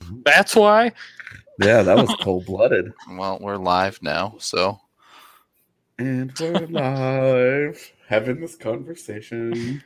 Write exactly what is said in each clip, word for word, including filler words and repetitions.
That's why? Yeah, that was cold-blooded. Well, we're live now, so. And we're live having this conversation.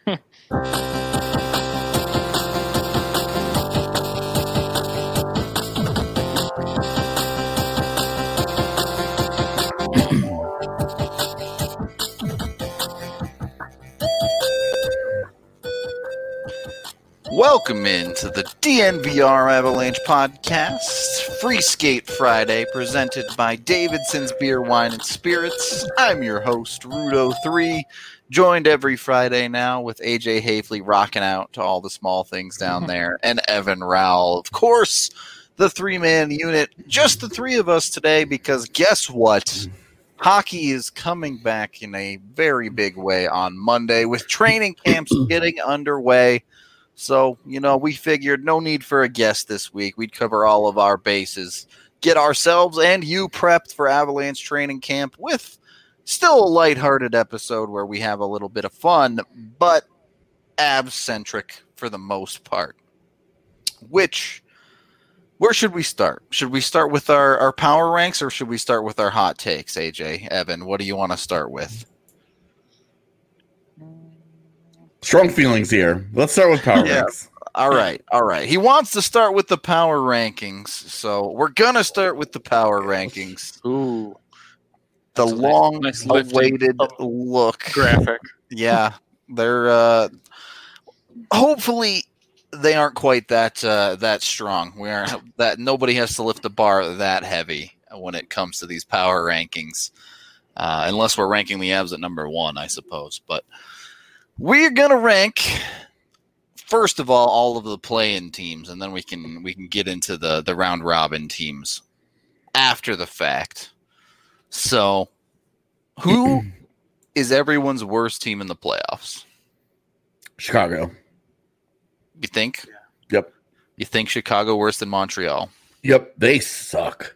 Welcome into the D N V R Avalanche Podcast, Free Skate Friday, presented by Davidson's Beer, Wine, and Spirits. I'm your host, Rudo three, joined every Friday now with A J Hafley rocking out to all the small things down there, and Evan Rowell. Of course, the three-man unit, just the three of us today, because guess what? Hockey is coming back in a very big way on Monday, with training camps getting underway. So, you know, we figured no need for a guest this week. We'd cover all of our bases, get ourselves and you prepped for Avalanche training camp with still a lighthearted episode where we have a little bit of fun, but Avs-centric for the most part. Which, where should we start? Should we start with our, our power ranks or should we start with our hot takes, A J? Evan, what do you want to start with? Strong feelings here. Let's start with power Yeah. ranks. All right, all right. He wants to start with the power rankings, so we're gonna start with the power rankings. Ooh. The That's a nice- long nice lifting awaited up look. graphic. Yeah, they're uh, hopefully they aren't quite that uh, that strong. We aren't that nobody has to lift the bar that heavy when it comes to these power rankings, uh, unless we're ranking the Avs at number one, I suppose. But we're gonna rank first of all all of the play-in teams, and then we can we can get into the the round robin teams after the fact. So, who is everyone's worst team in the playoffs? Chicago. You think? Yep. You think Chicago worse than Montreal? Yep. They suck.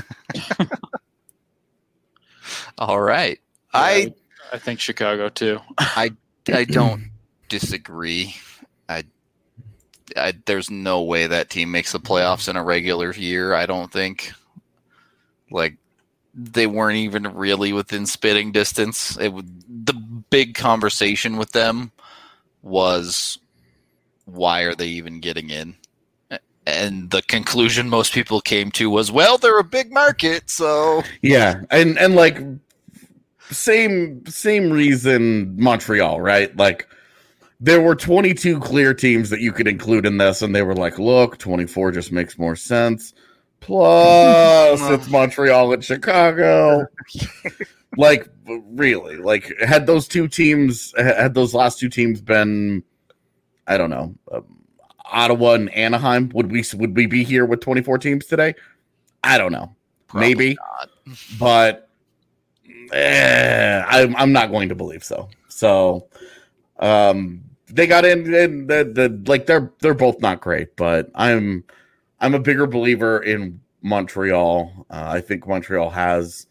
All right. Yeah, I I think Chicago too. I I don't disagree. I, I there's no way that team makes the playoffs in a regular year. I don't think. Like they weren't even really within spitting distance. It would, the big conversation with them was, why are they even getting in? And the conclusion most people came to was, well, they're a big market, so Yeah, and and like same same reason Montreal, right? Like there were twenty-two clear teams that you could include in this, and they were like, look, twenty-four just makes more sense. Plus, it's Montreal and Chicago. Like, really, like had those two teams, had those last two teams been, I don't know, um, Ottawa and Anaheim, would we would we be here with twenty-four teams today? I don't know, probably maybe, not. but eh, I'm I'm not going to believe so. So, um, they got in, and the, the like they're they're both not great, but I'm I'm a bigger believer in Montreal. Uh, I think Montreal has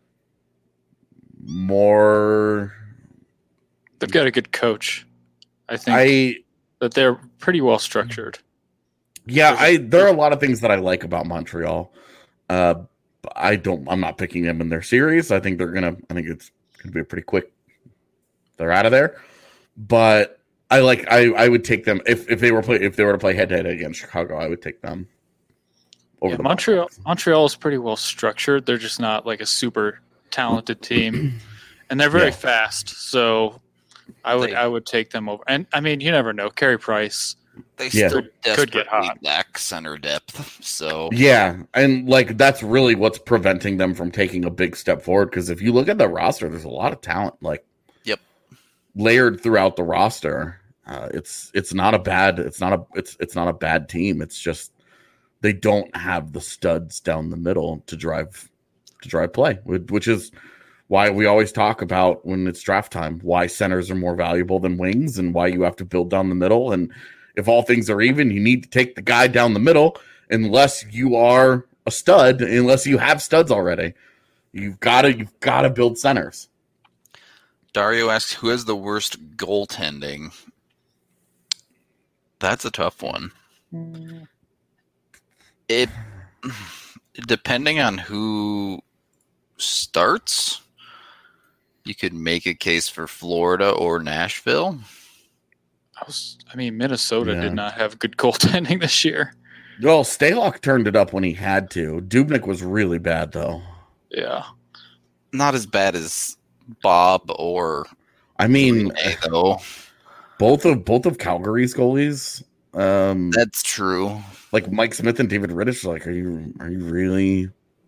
more. They've got a good coach. I think I that they're pretty well structured. yeah, I there are a lot of things that I like about Montreal. Uh, I don't. I'm not picking them in their series. I think they're gonna. I think it's gonna be a pretty quick. They're out of there, but I like. I, I would take them if, if they were play if they were to play head to head against Chicago. I would take them over Yeah, the Montreal Blackhawks. Montreal is pretty well structured. They're just not like a super talented team. And they're very Yeah. fast. So I would They- I would take them over. And I mean, you never know. Carey Price. They Yeah. still Could- could desperately get hot. lack center depth. So Yeah, and like that's really what's preventing them from taking a big step forward. Because if you look at the roster, there's a lot of talent, like Yep. layered throughout the roster. Uh, it's it's not a bad it's not a it's it's not a bad team. It's just they don't have the studs down the middle to drive to drive play, which which is why we always talk about when it's draft time, why centers are more valuable than wings, and why you have to build down the middle. And if all things are even, you need to take the guy down the middle, unless you are a stud, unless you have studs already. You've got to you've got to build centers. Dario asks, who has the worst goaltending? That's a tough one. It depending on who starts, you could make a case for Florida or Nashville. I was, I mean, Minnesota Yeah. did not have good goaltending this year. Well, Stalock turned it up when he had to. Dubnyk was really bad, though. Yeah. Not as bad as Bob or I mean, Renee, though. both of both of Calgary's goalies, um, That's true. like Mike Smith and David Rittich. Like, are you are you really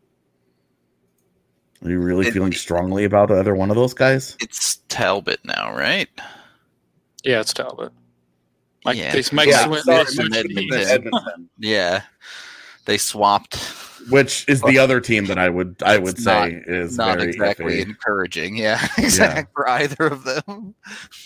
are you really It- feeling strongly about either one of those guys? It's Talbot now, right? Yeah, it's Talbot. Mike, Yeah. they, Mike Yeah, Smith, sorry, they Mike switched Smith, teams. Edmonton. Edmonton, Yeah. They swapped. which is the other team that I would I would It's say is Not very exactly iffy. encouraging. Yeah, exactly. For either of them.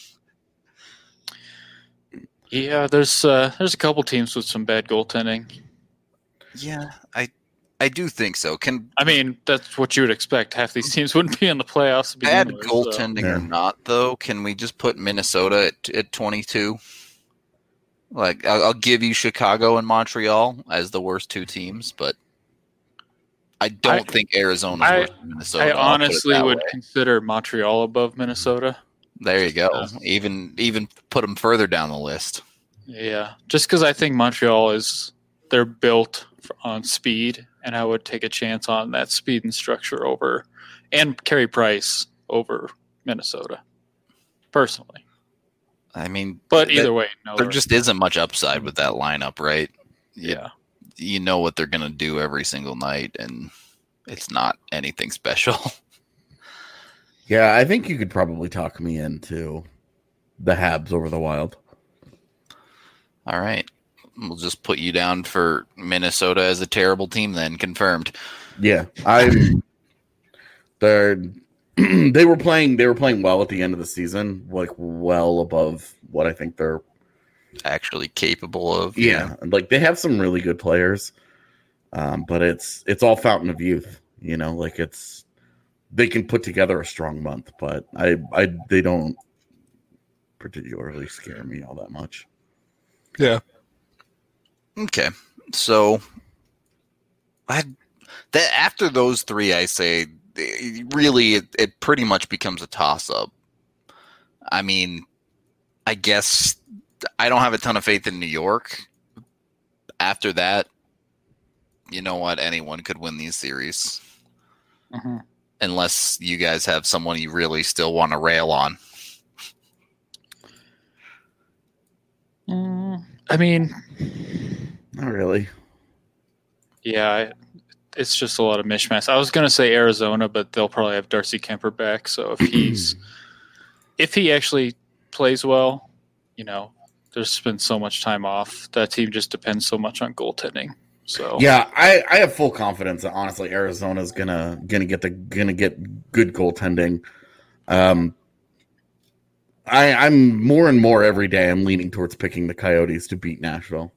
Yeah, there's uh, there's a couple teams with some bad goaltending. Yeah, I I do think so. Can I mean, that's what you would expect. Half these teams wouldn't be in the playoffs. To begin bad with, so- goaltending or Yeah. not, though, can we just put Minnesota at, at twenty-two? Like, I'll, I'll give you Chicago and Montreal as the worst two teams, but I don't I- think Arizona's I- worse than Minnesota. I I'll put it honestly that would way. consider Montreal above Minnesota. There you go. Yeah. Even even put them further down the list. Yeah, just because I think Montreal is they're built for, on speed, and I would take a chance on that speed and structure over, and Carey Price over Minnesota, personally. I mean, But that- either way, no. there just isn't much upside with that lineup, right? yeah, You know what they're going to do every single night, and it's not anything special. Yeah, I think you could probably talk me into the Habs over the Wild. All right. We'll just put you down for Minnesota as a terrible team then, confirmed. Yeah, I'm. They're they were playing they were playing well at the end of the season, like well above what I think they're. Actually capable of. Yeah, like they have some really good players, um, but it's it's all fountain of youth. You know, like it's they can put together a strong month, but I I they don't particularly scare me all that much. yeah. Okay. So I that after those three, I say eh, really it, it pretty much becomes a toss up. I mean, I guess I don't have a ton of faith in New York. After that, you know what? Anyone could win these series. hmm Unless you guys have someone you really still want to rail on. Mm, I mean, Not really. yeah, I- it's just a lot of mishmash. I was going to say Arizona, but they'll probably have Darcy Kemper back. So if he's if he actually plays well, you know, there's been so much time off. That team just depends so much on goaltending. So Yeah, I, I have full confidence that honestly Arizona's gonna gonna get the gonna get good goaltending. Um, I I'm more and more every day I'm leaning towards picking the Coyotes to beat Nashville.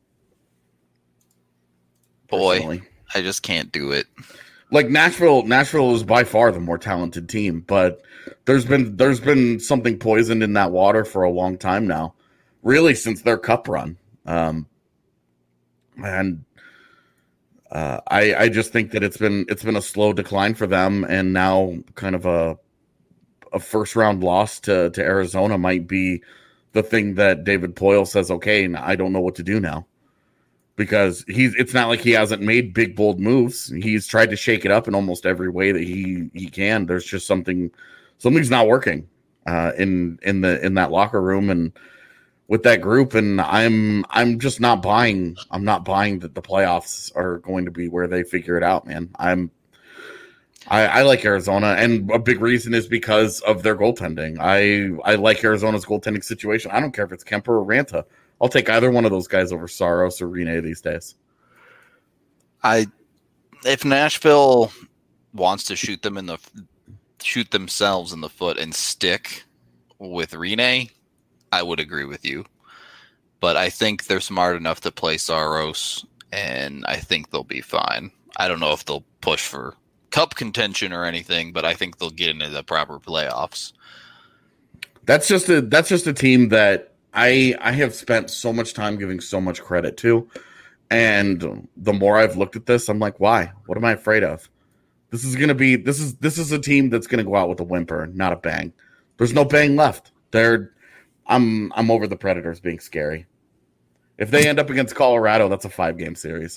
Boy, personally. I just can't do it. Like Nashville, Nashville is by far the more talented team, but there's been there's been something poisoned in that water for a long time now, really since their cup run. Um, and uh, I I just think that it's been it's been a slow decline for them, and now kind of a a first round loss to to Arizona might be the thing that David Poyle says, okay, I don't know what to do now. Because he's it's not like he hasn't made big bold moves. He's tried to shake it up in almost every way that he he can. There's just something something's not working uh, in in the in that locker room and with that group. And I'm I'm just not buying. I'm not buying that the playoffs are going to be where they figure it out, man. I'm I, I like Arizona, and a big reason is because of their goaltending. I I like Arizona's goaltending situation. I don't care if it's Kemper or Ranta. I'll take either one of those guys over Saros or Rene these days. I if Nashville wants to shoot them in the shoot themselves in the foot and stick with Rene, I would agree with you. But I think they're smart enough to play Saros, and I think they'll be fine. I don't know if they'll push for cup contention or anything, but I think they'll get into the proper playoffs. That's just a that's just a team that I I have spent so much time giving so much credit to, And the more I've looked at this, I'm like, why? What am I afraid of? This is gonna be this is this is a team that's gonna go out with a whimper, not a bang. There's no bang left. They're I'm I'm over the Predators being scary. If they end up against Colorado, that's a five game series.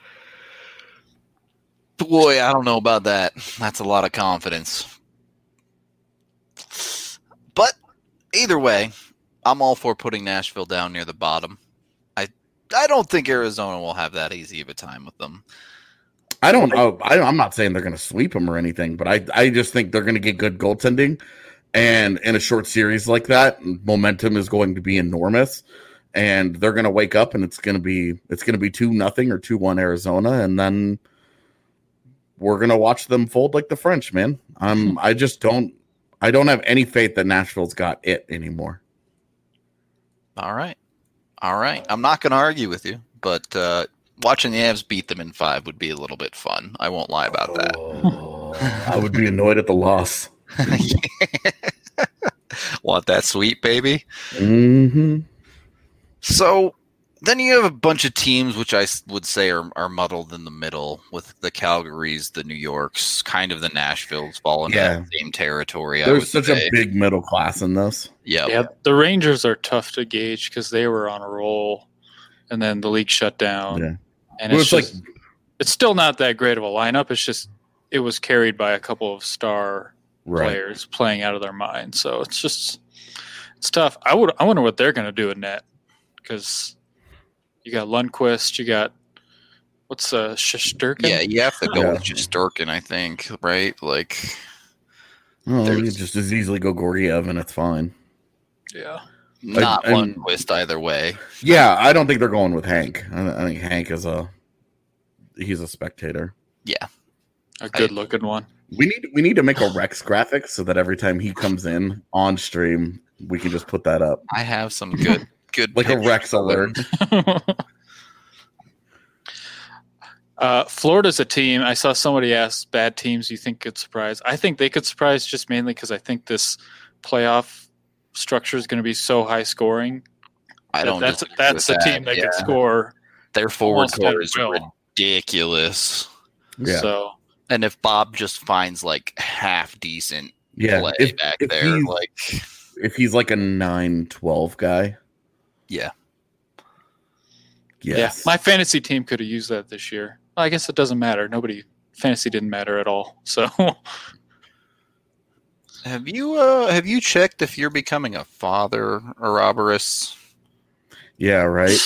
Boy, I don't know about that. That's a lot of confidence. But either way, I'm all for putting Nashville down near the bottom. I I don't think Arizona will have that easy of a time with them. I don't know. I, I'm not saying they're going to sweep them or anything, but I I just think they're going to get good goaltending. And in a short series like that, momentum is going to be enormous. And they're going to wake up, and it's going to be it's going to be two nothing or two one Arizona, and then we're going to watch them fold like the French, man. I'm I just don't I don't have any faith that Nashville's got it anymore. All right. All right. I'm not going to argue with you, but uh, watching the Avs beat them in five would be a little bit fun. I won't lie about that. Oh, I would be annoyed at the loss. Want that sweet, baby? Mm-hmm. So then you have a bunch of teams which I would say are, are muddled in the middle, with the Calgarys, the New Yorks, kind of the Nashvilles fall into Yeah. that same territory. I There's would such say. a big middle class in this. Yep. Yeah, the Rangers are tough to gauge because they were on a roll, and then the league shut down. Yeah. And Well, it's, it's just, like- it's still not that great of a lineup. It's just it was carried by a couple of star Right. players playing out of their mind. So it's just it's tough. I would I wonder what they're going to do in net, because you got Lundqvist, you got what's uh Shesterkin? Yeah, you have to go Yeah. with Shesterkin, I think, right? Like, Oh, you There's- could just as easily go Gorgiev, and it's fine. yeah. not and- Lundqvist either way. Yeah, I don't think they're going with Hank. I, I think Hank is a he's a spectator. A good looking one. We need we need to make a Rex graphic so that every time he comes in on stream, we can just put that up I have some good, good like a pictures Rex of him. alert. uh, Florida's a team. I saw somebody ask bad teams you think could surprise. I think they could surprise just mainly because I think this playoff structure is going to be so high scoring. I don't. That's disagree that's with a team that yeah. can score. Their forward almost core at is will. ridiculous. Yeah. So And if Bob just finds like half decent Yeah, play if, back if there, he's, like if he's like a nine twelve guy, yeah, yes. yeah, my fantasy team could have used that this year. Well, I guess it doesn't matter. Nobody fantasy didn't matter at all. So have you uh have you checked if you're becoming a father, Ouroboros? yeah, right.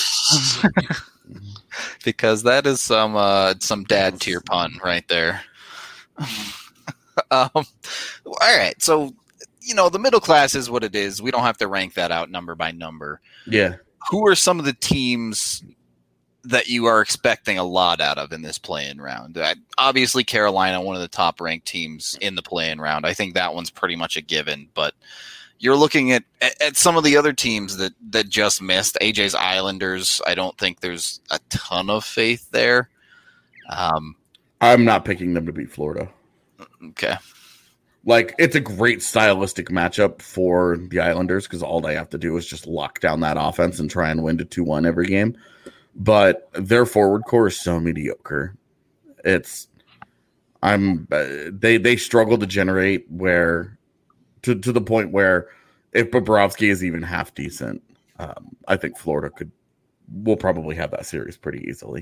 Because that is some uh some dad tier pun right there. um, all right, so you know the middle class is what it is. We don't have to rank that out number by number. Yeah. Who are some of the teams that you are expecting a lot out of in this play-in round? Uh, obviously, Carolina, one of the top-ranked teams in the play-in round. I think that one's pretty much a given. But you're looking at, at, at some of the other teams that, that just missed. A J's Islanders, I don't think there's a ton of faith there. Um, I'm not picking them to beat Florida. okay. Like, it's a great stylistic matchup for the Islanders because all they have to do is just lock down that offense and try and win to two one every game. But their forward core is so mediocre. It's I'm uh, they they struggle to generate where to to the point where if Bobrovsky is even half decent, um, I think Florida could will probably have that series pretty easily.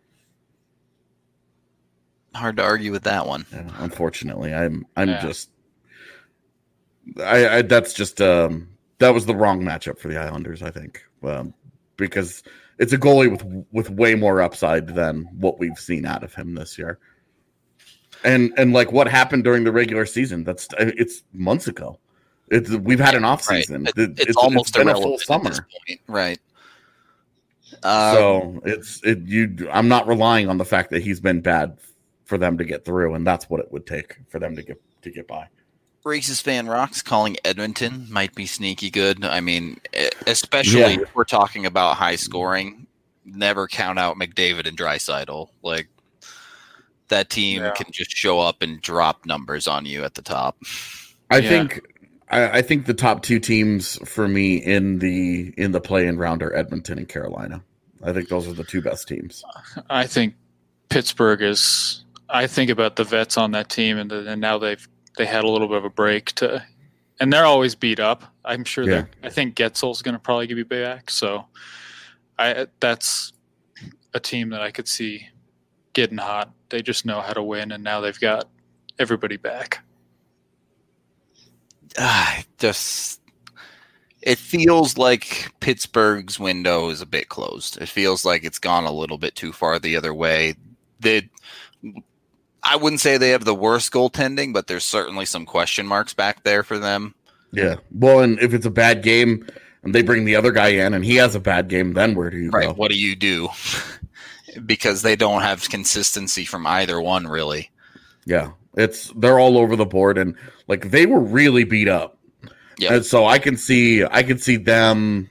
Hard to argue with that one. Yeah, unfortunately, I'm I'm Yeah. just I, I that's just um that was the wrong matchup for the Islanders, I think, um, because it's a goalie with with way more upside than what we've seen out of him this year. And and like what happened during the regular season, that's it's months ago. It's we've had an off Right. season. It- It- it's, almost been a irrelevant full at this summer. point. Right. Um, So it's it you. I'm not relying on the fact that he's been bad for them to get through, and that's what it would take for them to get to get by. Racist Fan Rocks calling Edmonton might be sneaky good. I mean, e- especially Yeah. if we're talking about high scoring, never count out McDavid and Draisaitl. Like, that team Yeah. can just show up and drop numbers on you at the top. I Yeah. think I, I think the top two teams for me in the in the play-in round are Edmonton and Carolina. I think those are the two best teams. I think Pittsburgh is. I think about the vets on that team, and, the, and now they've they had a little bit of a break to, and they're always beat up. I'm sure Yeah. that I think Getzel's going to probably give you back. So, I that's a team that I could see getting hot. They just know how to win, and now they've got everybody back. Ah, just it feels like Pittsburgh's window is a bit closed. It feels like it's gone a little bit too far the other way. They, I wouldn't say they have the worst goaltending, but there's certainly some question marks back there for them. Yeah. Well, and if it's a bad game and they bring the other guy in and he has a bad game, then where do you Right. go? What do you do? Because they don't have consistency from either one, really. Yeah. It's they're all over the board, and like they were really beat up. Yeah. And so I can see I can see them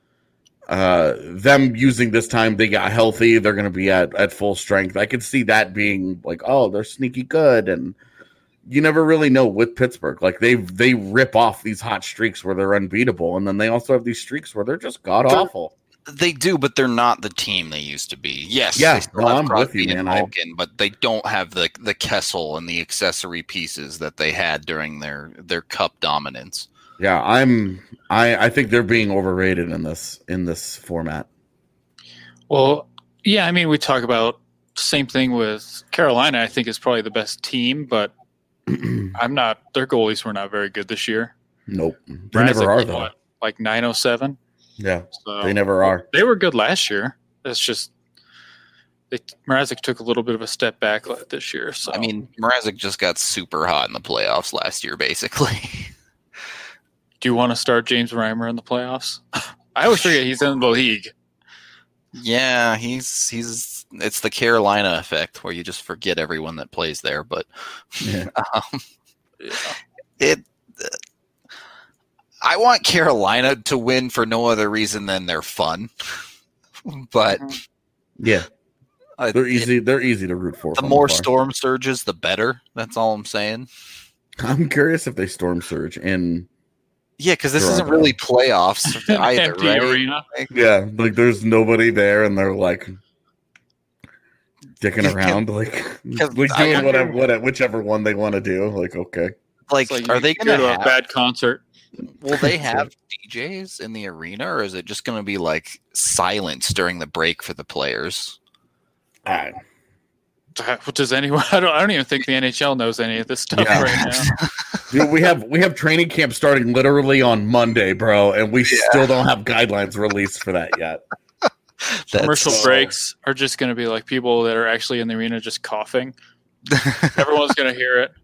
uh them using this time they got healthy, they're gonna be at, at full strength. I could see that being like, oh, they're sneaky good, and you never really know with Pittsburgh. Like they they rip off these hot streaks where they're unbeatable, and then they also have these streaks where they're just god awful. They do, but they're not the team they used to be. Yes, Yeah, they still no, have I'm Crosby with you, and man. I- Malkin, but they don't have the the Kessel and the accessory pieces that they had during their their cup dominance. Yeah, I'm I, I think they're being overrated in this in this format. Well, yeah, I mean, we talk about same thing with Carolina. I think is probably the best team, but I'm not. Their goalies were not very good this year. Nope. They Mrazek never are was though. what, like nine oh seven. Yeah. So They never are. They were good last year. It's just they, Mrazek took a little bit of a step back this year. So I mean, Mrazek just got super hot in the playoffs last year, basically. do you want to start James Reimer in the playoffs? I always forget he's in the league. Yeah, he's he's it's the Carolina effect where you just forget everyone that plays there. But Yeah. um, Yeah. it. Uh, I want Carolina to win for no other reason than they're fun. But Yeah. uh, They're it- easy they're easy to root for. the from more afar. storm surges, the better. That's all I'm saying. I'm curious if they storm surge in Yeah, because this isn't Toronto. really playoffs either, Empty right? arena. yeah, like there's nobody there and they're like dicking You around, like, 'cause like I doing wonder- whatever, whatever, whichever one they want to do. Like, okay. Like, It's like are you they go going to to a have? bad concert? Will they have D Js in the arena, or is it just going to be like silence during the break for the players? I, Does anyone? I don't. I don't even think the N H L knows any of this stuff Yeah. right now. dude, we have we have training camp starting literally on Monday, bro, and we still don't have guidelines released for that yet. Commercial so- breaks are just going to be like people that are actually in the arena just coughing. Everyone's going to hear it.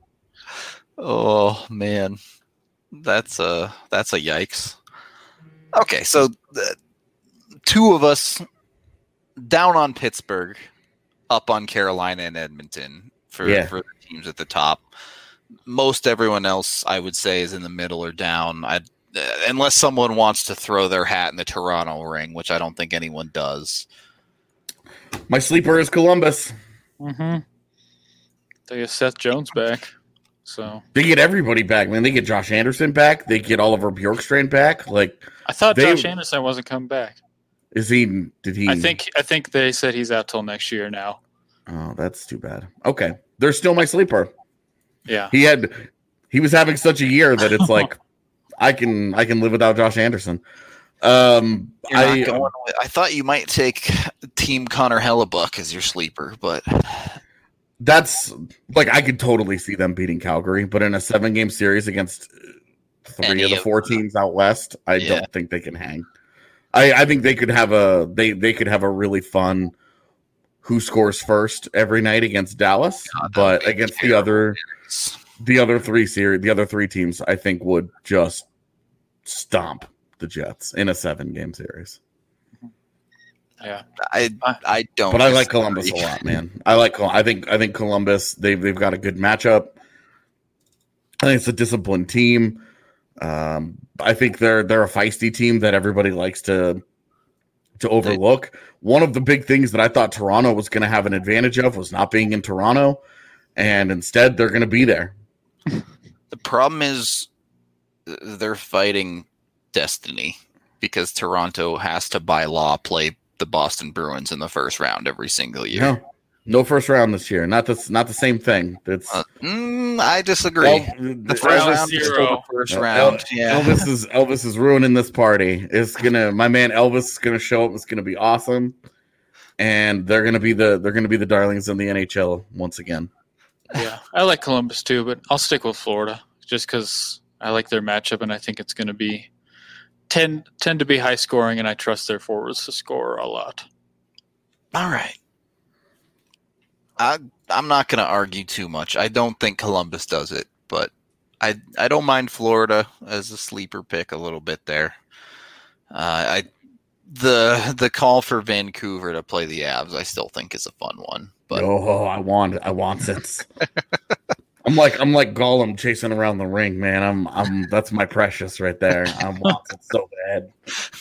Oh man, that's a that's a yikes. Okay, so the two of us down on Pittsburgh, up on Carolina and Edmonton for Yeah. for the teams at the top. Most everyone else, I would say, is in the middle or down. I uh, unless someone wants to throw their hat in the Toronto ring, which I don't think anyone does. My sleeper is Columbus. Mm-hmm. They get Seth Jones back, so They get everybody back, man. They get Josh Anderson back. They get Oliver Bjorkstrand back. Like, I thought They- Josh Anderson wasn't coming back. is he? Did he? I think. I think they said he's out till next year now. Oh, that's too bad. Okay, they're still my sleeper. Yeah. He had, he was having such a year that it's like, I can, I can live without Josh Anderson. Um, You're I, not going with, I thought you might take Team Connor Hellebuck as your sleeper, but that's like I could totally see them beating Calgary, but in a seven game series against three Any of the of four them. teams out west, I Yeah. don't think they can hang. I, I think they could have a they they could have a really fun who scores first every night against Dallas, God, that but would be against the terrible. other the other three series the other three teams, I think would just stomp the Jets in a seven game series. Yeah. I I don't. But I like Columbus a disagree. lot, man. I like. Col- I think. I think Columbus. They've they've got a good matchup. I think it's a disciplined team. Um, I think they're they're a feisty team that everybody likes to to overlook. One of the big things that I thought Toronto was going to have an advantage of was not being in Toronto, and instead they're going to be there. The problem is they're fighting destiny because Toronto has to, by law, play the Boston Bruins in the first round every single year. No, no first round this year. Not the not the same thing. It's uh, mm, I disagree. El- the first Elvis round is still zero. the first El- round. Yeah. Elvis is Elvis is ruining this party. It's gonna my man Elvis is gonna show up. It's gonna be awesome, and they're gonna be the they're gonna be the darlings in the N H L once again. Yeah, I like Columbus too, but I'll stick with Florida just because I like their matchup, and I think it's going to be tend tend to be high scoring, and I trust their forwards to score a lot. All right. I I'm not going to argue too much. I don't think Columbus does it, but I I don't mind Florida as a sleeper pick a little bit there. Uh, I the the call for Vancouver to play the Avs, I still think is a fun one. But oh, I want it. I want it. I'm like I'm like Gollum chasing around the ring, man. I'm I'm that's my precious right there. I want it so bad.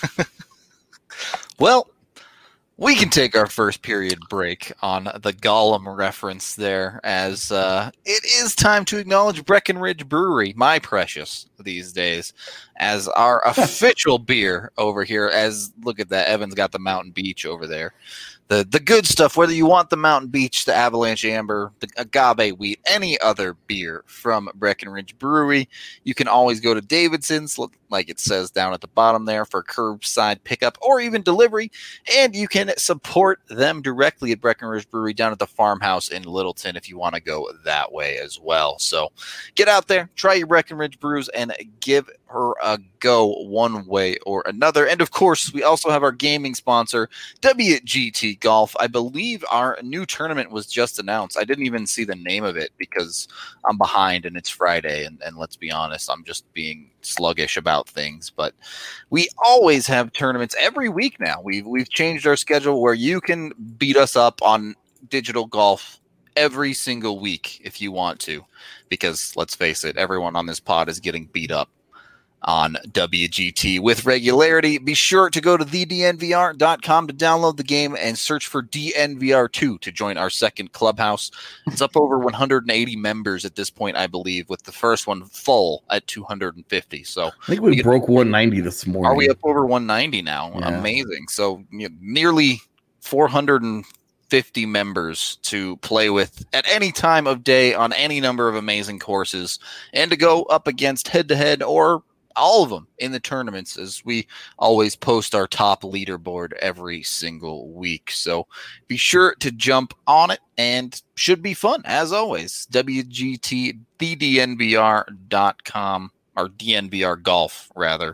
Well, we can take our first period break on the Gollum reference there, as uh, it is time to acknowledge Breckenridge Brewery, my precious these days, as our official beer over here. As look at that, Evan's got the Mountain Beach over there. The the good stuff, whether you want the Mountain Beach, the Avalanche Amber, the Agave Wheat, any other beer from Breckenridge Brewery, you can always go to Davidson's, like it says down at the bottom there, for curbside pickup or even delivery, and you can support them directly at Breckenridge Brewery down at the farmhouse in Littleton if you want to go that way as well. So get out there, try your Breckenridge brews, and give her a go one way or another. And of course, we also have our gaming sponsor, W G T Golf. I believe our new tournament was just announced. I didn't even see the name of it because I'm behind and it's Friday. And, and let's be honest, I'm just being sluggish about things. But we always have tournaments every week now. We've, we've changed our schedule where you can beat us up on digital golf every single week if you want to. Because let's face it, everyone on this pod is getting beat up on W G T with regularity. Be sure to go to the D N V R dot com to download the game and search for D N V R two to join our second clubhouse. It's up over one hundred eighty members at this point, I believe, with the first one full at two hundred fifty. So I think we, we broke one ninety this morning. Are we up over one ninety now? Yeah. Amazing. So you know, nearly four hundred fifty members to play with at any time of day on any number of amazing courses, and to go up against head-to-head or all of them in the tournaments, as we always post our top leaderboard every single week. So be sure to jump on it, and should be fun as always. W G T, the D N V R dot com, or D N V R Golf rather.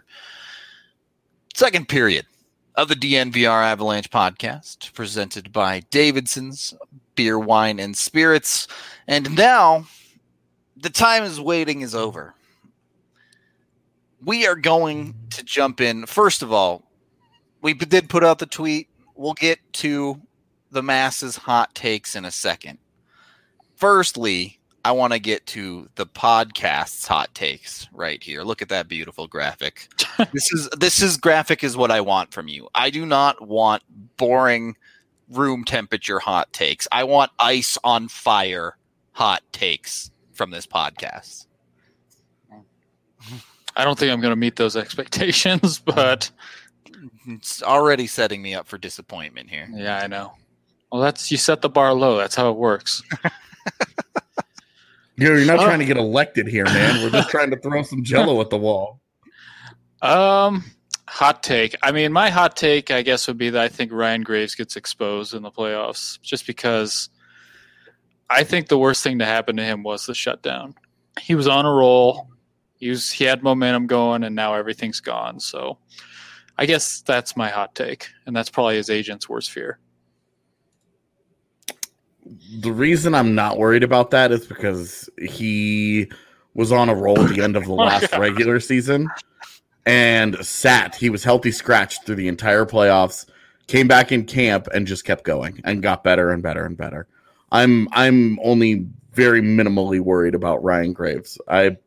Second period of the D N V R Avalanche podcast, presented by Davidson's Beer, Wine, and Spirits. And now the time is waiting is over. We are going to jump in. First of all, we did put out the tweet. We'll get to the masses' hot takes in a second. Firstly, I want to get to the podcast's hot takes right here. Look at that beautiful graphic. This is this is graphic is what I want from you. I do not want boring room temperature hot takes. I want ice on fire hot takes from this podcast. I don't think I'm going to meet those expectations, but it's already setting me up for disappointment here. Yeah, I know. Well, that's you set the bar low. That's how it works. You're not uh, trying to get elected here, man. We're just trying to throw some jello at the wall. Um, hot take. I mean, my hot take, I guess, would be that I think Ryan Graves gets exposed in the playoffs, just because I think the worst thing to happen to him was the shutdown. He was on a roll. He was, he had momentum going, and now everything's gone. So I guess that's my hot take, and that's probably his agent's worst fear. The reason I'm not worried about that is because he was on a roll at the end of the last oh regular season and sat. He was healthy scratched through the entire playoffs, came back in camp, and just kept going and got better and better and better. I'm I'm only very minimally worried about Ryan Graves. I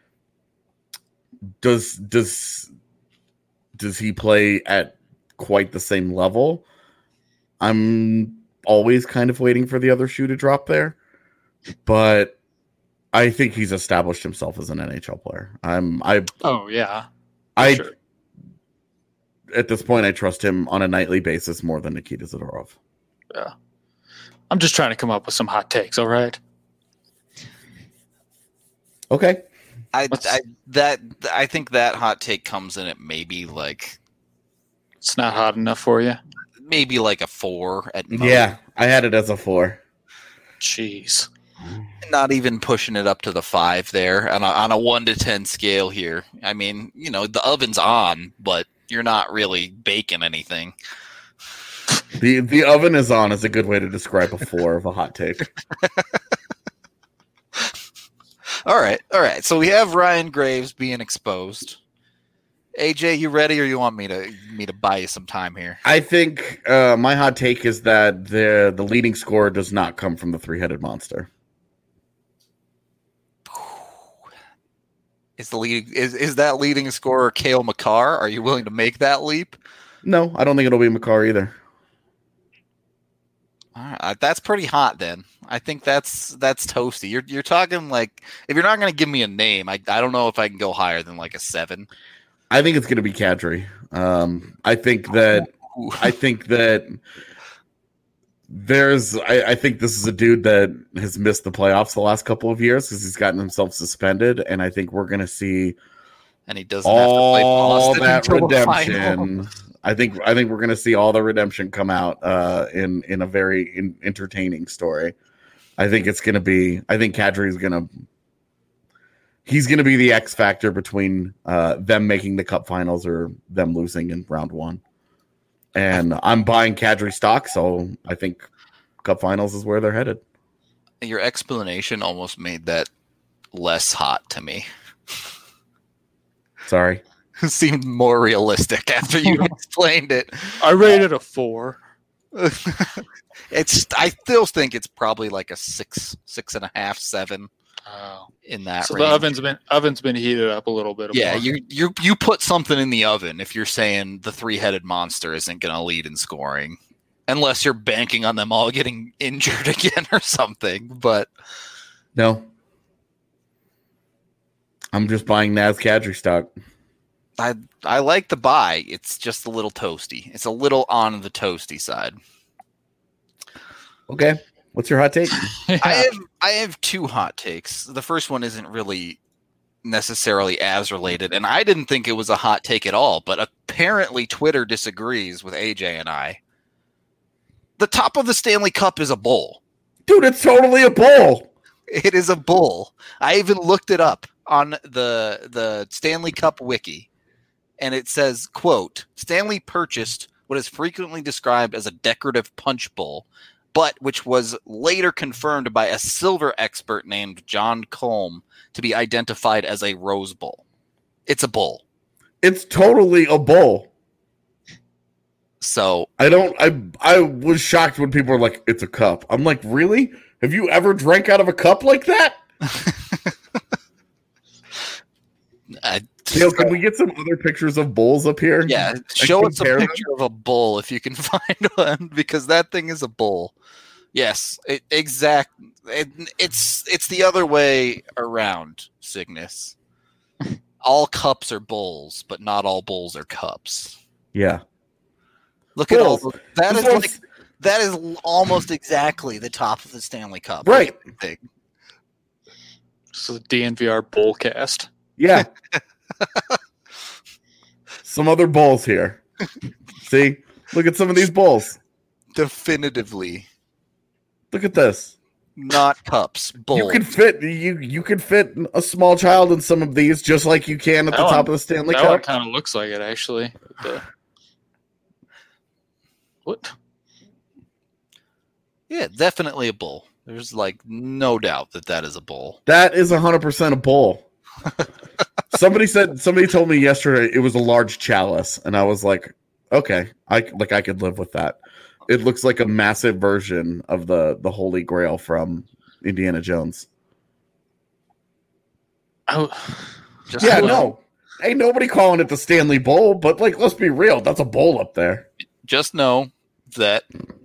Does does does he play at quite the same level? I'm always kind of waiting for the other shoe to drop there, but I think he's established himself as an N H L player. I'm I oh yeah, I sure. at this point, I trust him on a nightly basis more than Nikita Zadorov. Yeah. I'm just trying to come up with some hot takes, all right? Okay. I, I that I think that hot take comes in at maybe like it's not hot enough for you. Maybe like a four at most. Yeah, I had it as a four. Jeez. Not even pushing it up to the five there on a, on a one to ten scale here. I mean, you know, the oven's on, but you're not really baking anything. The the oven is on is a good way to describe a four of a hot take. All right, all right. So we have Ryan Graves being exposed. A J, you ready, or you want me to me to buy you some time here? I think uh, my hot take is that the the leading scorer does not come from the three headed monster. Is the leading is is that leading scorer Cale Makar? Are you willing to make that leap? No, I don't think it'll be Makar either. All right, that's pretty hot then. I think that's that's toasty. You're you're talking like if you're not going to give me a name, I I don't know if I can go higher than like a seven. I think it's going to be Kadri. Um, I think that Ooh. I think that there's I, I think this is a dude that has missed the playoffs the last couple of years because he's gotten himself suspended, and I think we're going to see and he doesn't have to play all Boston that until the final. redemption. I think I think we're going to see all the redemption come out uh, in in a very in, entertaining story. I think it's going to be. I think Kadri is going to. He's going to be the X factor between uh, them making the Cup Finals or them losing in round one. And I'm buying Kadri stock, so I think Cup Finals is where they're headed. Your explanation almost made that less hot to me. Sorry. It seemed more realistic after you explained it. I rated a four. It's. I still think it's probably like a six, six and a half, seven. Oh. In that so range. the oven's been oven's been heated up a little bit. Yeah, more. you you you put something in the oven if you're saying the three-headed monster isn't going to lead in scoring, unless you're banking on them all getting injured again or something. But no, I'm just buying Naz Kadri stock. I I like the buy. It's just a little toasty. It's a little on the toasty side. Okay. What's your hot take? Yeah. I have I have two hot takes. The first one isn't really necessarily as related, and I didn't think it was a hot take at all, but apparently Twitter disagrees with A J and I. The top of the Stanley Cup is a bowl. Dude, it's totally a bowl. It is a bowl. I even looked it up on the the Stanley Cup wiki, and it says, quote, Stanley purchased what is frequently described as a decorative punch bowl, but which was later confirmed by a silver expert named John Colm to be identified as a Rose Bowl. It's a bowl. It's totally a bowl. So I don't I I was shocked when people were like, it's a cup. I'm like, really? Have you ever drank out of a cup like that? I, Dale, can we get some other pictures of bowls up here? yeah, And show us a compare them? picture of a bowl if you can find one, because that thing is a bowl. Yes, it, exact. It, it's it's the other way around, Cygnus. All cups are bowls, but not all bowls are cups. Yeah. Look at all Bowls. the, that This is one's- like that is almost exactly the top of the Stanley Cup. Right. Thing. So the D N V R Bowlcast. Yeah. Some other bowls here. See? Look at some of these bowls. Definitively Look at this. not cups. Bowls. You can fit you you can fit a small child in some of these just like you can at That the one- top of the Stanley That one Cup. kind of looks like it, actually. With the- What? Yeah, definitely a bowl. There's like no doubt that that is a bowl. That is one hundred percent a bowl. Somebody said somebody told me yesterday it was a large chalice, and I was like, okay, I like I could live with that. It looks like a massive version of the the Holy Grail from Indiana Jones. Oh, Just Yeah, know, no. Ain't nobody calling it the Stanley Bowl, but like let's be real, that's a bowl up there. Just know that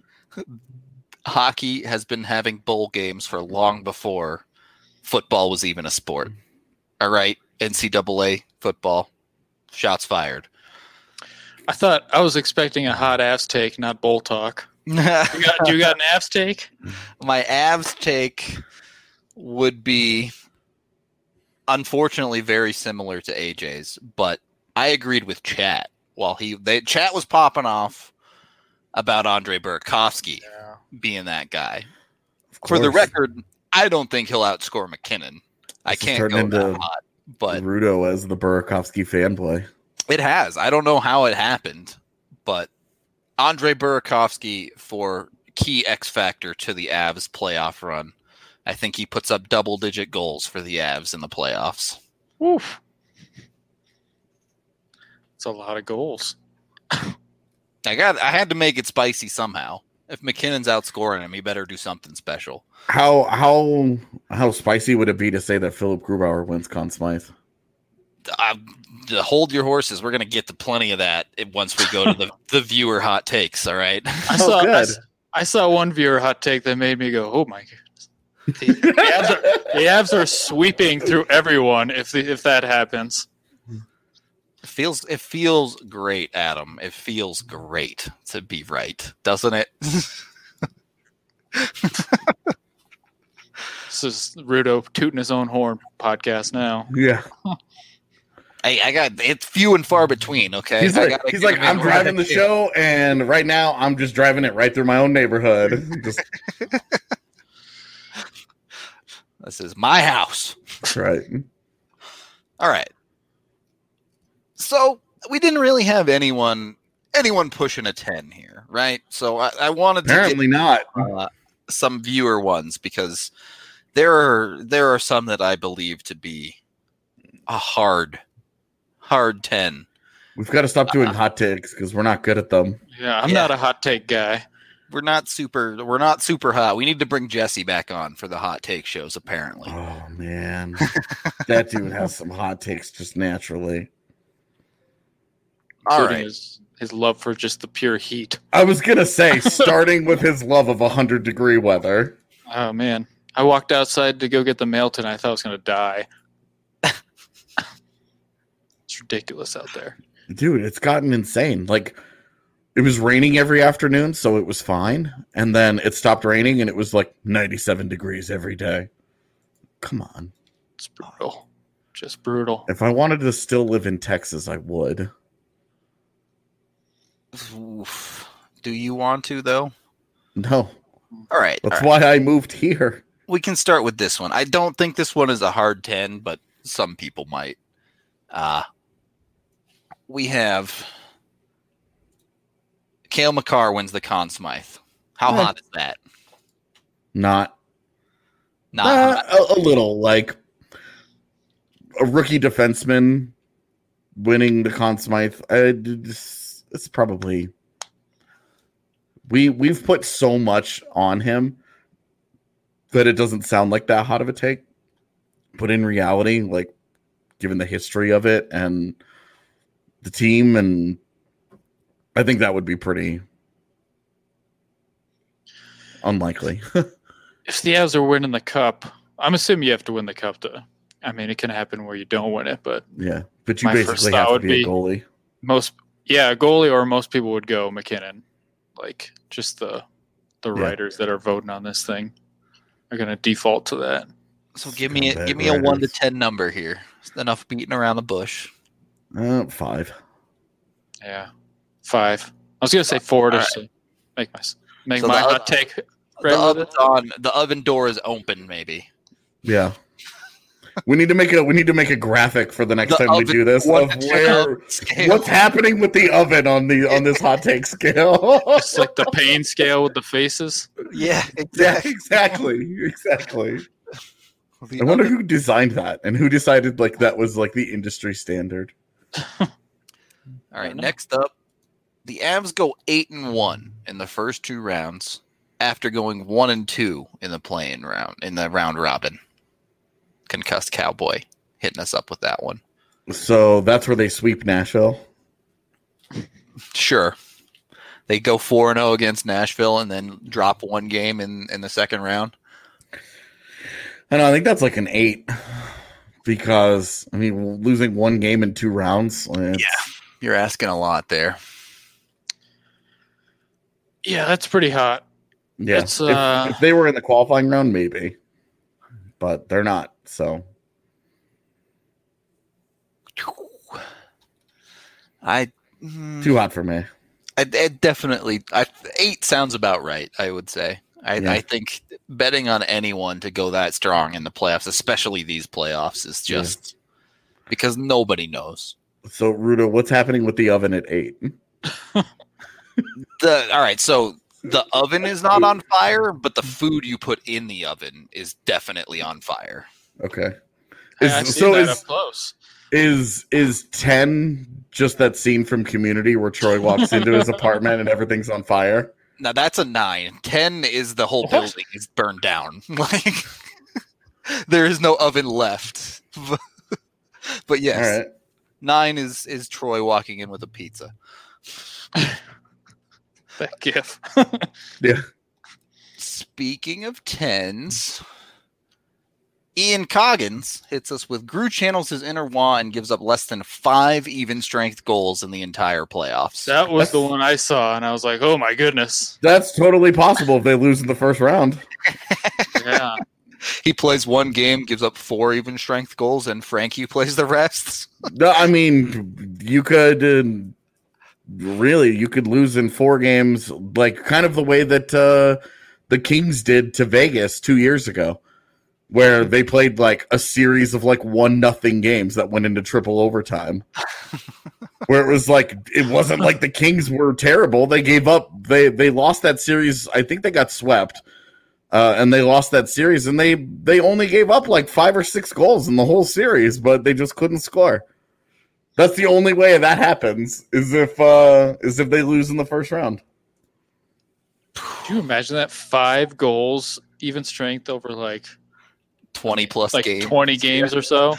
hockey has been having bowl games for long before football was even a sport. All right, N C double A football, shots fired. I thought I was expecting a hot ass take, not bull talk. You got, do you got an Avs take? My Avs take would be, unfortunately, very similar to A J's, but I agreed with Chat. While he, they, Chat was popping off about Andre Burakovsky Yeah. being that guy. For the record, I don't think he'll outscore McKinnon. I This is can't turning go that into hot, but Rudo as the Burakovsky fanboy. it has. I don't know how it happened, but Andre Burakovsky for key X factor to the Avs playoff run. I think he puts up double-digit goals for the Avs in the playoffs. Oof. It's a lot of goals. I got. I had to make it spicy somehow. If McKinnon's outscoring him, he better do something special. How how how spicy would it be to say that Philip Grubauer wins Conn Smythe? Uh, hold your horses. We're going to get to plenty of that once we go to the, the viewer hot takes, all right? I Oh, saw I, good. s- I saw one viewer hot take that made me go, "Oh my goodness!" The, the, Avs are, the Avs are sweeping through everyone. If the, if that happens, It feels it feels great, Adam. It feels great to be right, doesn't it? this is Rudo tooting his own horn podcast now. Yeah. Hey, I got it's few and far between. Okay, He's I like, gotta he's give like, him I'm in driving the where I can. show, and right now I'm just driving it right through my own neighborhood. Just This is my house. right. All right. So we didn't really have anyone anyone pushing a ten here, right? So I, I wanted to Apparently not. get uh, some viewer ones because there are there are some that I believe to be a hard hard ten. We've got to stop doing hot takes because we're not good at them. Yeah, I'm Yeah. not a hot take guy. We're not super we're not super hot. We need to bring Jesse back on for the hot take shows apparently. Oh man, that dude has some hot takes just naturally. All Including right. his, his love for just the pure heat. I was gonna say, starting with his love of one hundred degree weather. Oh man, I walked outside to go get the mail tonight. I thought I was gonna die. It's ridiculous out there. Dude, it's gotten insane. Like, it was raining every afternoon, so it was fine. And then it stopped raining, and it was like ninety-seven degrees every day. Come on. It's brutal. Just brutal. If I wanted to still live in Texas, I would. Oof. Do you want to though? No. All right. That's all right. why I moved here. We can start with this one. I don't think this one is a hard ten, but some people might. Uh, we have Cale Makar wins the Conn Smythe. How Eh. hot is that? Not. Not Uh, hot. a, a little. Like, a rookie defenseman winning the Conn Smythe. I, it's, it's probably... We, we've put so much on him that it doesn't sound like that hot of a take. But in reality, like, given the history of it and the team, and I think that would be pretty unlikely. If the Avs are winning the cup, I'm assuming you have to win the cup to. I mean, it can happen where you don't win it, but Yeah, but you My first basically thought have to would be a be- goalie. most, yeah, a goalie or most people would go McKinnon. Like, just the the Yeah. writers that are voting on this thing are going to default to that. So give me a, Scumbag give me a one to writers. ten number here. It's enough beating around the bush. Uh, five. Yeah, five. I was going to say four to All right. s- make my make So my the hot oth- take. The Right with oven's on. The oven door is open. Maybe. Yeah. We need to make a we need to make a graphic for the next The time we oven- do this one of to ten where scale. what's happening with the oven on the on this hot take scale. It's like the pain scale with the faces. Yeah, Yeah, exactly. exactly. Exactly. The I wonder oven- who designed that and who decided like that was like the industry standard. All right, next up, the Avs go eight and one in the first two rounds after going one and two in the playing round in the round robin. Concussed Cowboy hitting us up with that one. So that's where they sweep Nashville. Sure, they go four and zero against Nashville and then drop one game in in the second round. And I think that's like an eight because I mean losing one game in two rounds. It's, You're asking a lot there. Yeah, that's pretty hot. Yeah, It's, uh, if, if they were in the qualifying round, maybe, but they're not. So I too hot for me. I, I definitely I, eight sounds about right. I would say. I, Yeah. I think betting on anyone to go that strong in the playoffs, especially these playoffs, is just yeah. because nobody knows. So, Ruda, what's happening with the oven at eight? the all right, so the oven is not on fire, but the food you put in the oven is definitely on fire. Okay. Is, I see so that is, up close. Is is ten just that scene from Community where Troy walks into his apartment and everything's on fire? Now that's a nine. Ten is the whole what? building is burned down. Like there is no oven left. But yes, all right. Nine is is Troy walking in with a pizza. That gif. Yeah. Speaking of tens, Ian Coggins hits us with Gru channels his inner Wah and gives up less than five even strength goals in the entire playoffs. That was that's, the one I saw, and I was like, oh my goodness. That's totally possible if they lose in the first round. Yeah. He plays one game, gives up four even strength goals, and Frankie plays the rest. No, I mean, you could uh, really, you could lose in four games, like kind of the way that uh, the Kings did to Vegas two years ago, where they played like a series of like one nothing games that went into triple overtime. Where it was like, it wasn't like the Kings were terrible. They gave up. They they lost that series. I think they got swept. Uh, and they lost that series, and they, they only gave up like five or six goals in the whole series, but they just couldn't score. That's the only way that happens is if uh, is if they lose in the first round. Can you imagine that? Five goals, even strength over like twenty plus like games. twenty games yeah. or so.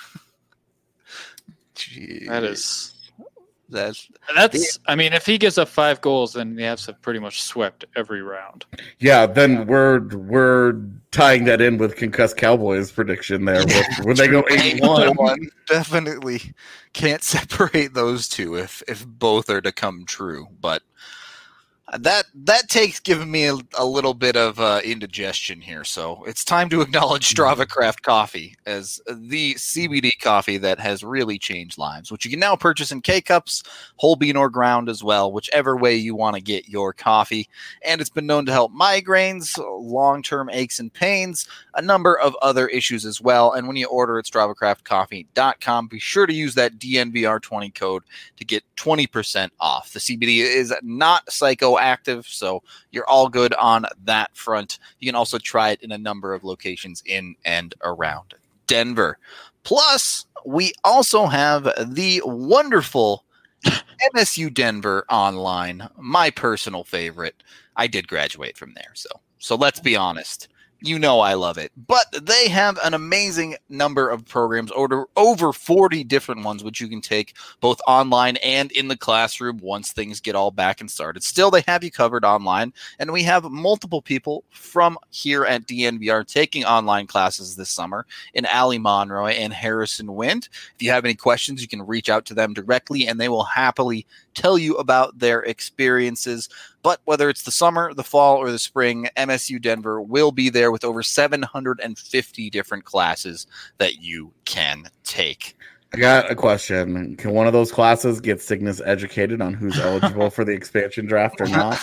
Jeez. That is. That's that's. I mean, if he gives up five goals, then the Avs have pretty much swept every round. Yeah, then we're we're tying that in with Concussed Cowboys prediction there, yeah, with, when they go eight one. Definitely can't separate those two if if both are to come true. But that that take's given me a, a little bit of uh, indigestion here, so it's time to acknowledge Strava Craft Coffee as the C B D coffee that has really changed lives, which you can now purchase in K-Cups, whole bean or ground as well, whichever way you want to get your coffee. And it's been known to help migraines, long-term aches and pains, a number of other issues as well. And when you order at strava craft coffee dot com, be sure to use that D N V R twenty code to get twenty percent off. The C B D is not psychoactive, so you're all good on that front. You can also try it in a number of locations in and around Denver. Plus, we also have the wonderful M S U Denver Online, my personal favorite. I did graduate from there, so so let's be honest. You know I love it. But they have an amazing number of programs, over, over forty different ones, which you can take both online and in the classroom once things get all back and started. Still, they have you covered online, and we have multiple people from here at D N V R taking online classes this summer in Allie Monroy and Harrison Wind. If you have any questions, you can reach out to them directly, and they will happily tell you about their experiences. But whether it's the summer, the fall, or the spring, M S U Denver will be there with over seven hundred fifty different classes that you can take. I got a question. Can one of those classes get Cygnus educated on who's eligible for the expansion draft or not?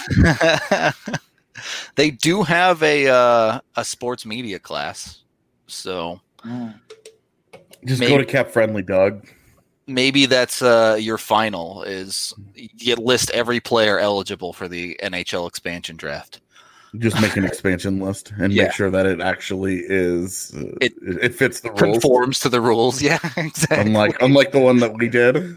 They do have a uh, a sports media class. So just maybe, go to Cap Friendly, Doug. Maybe that's uh, your final is you list every player eligible for the N H L expansion draft. Just make an expansion list and yeah. make sure that it actually is uh, it, it fits the rules. Conforms to the rules. Yeah, exactly. Unlike unlike the one that we did.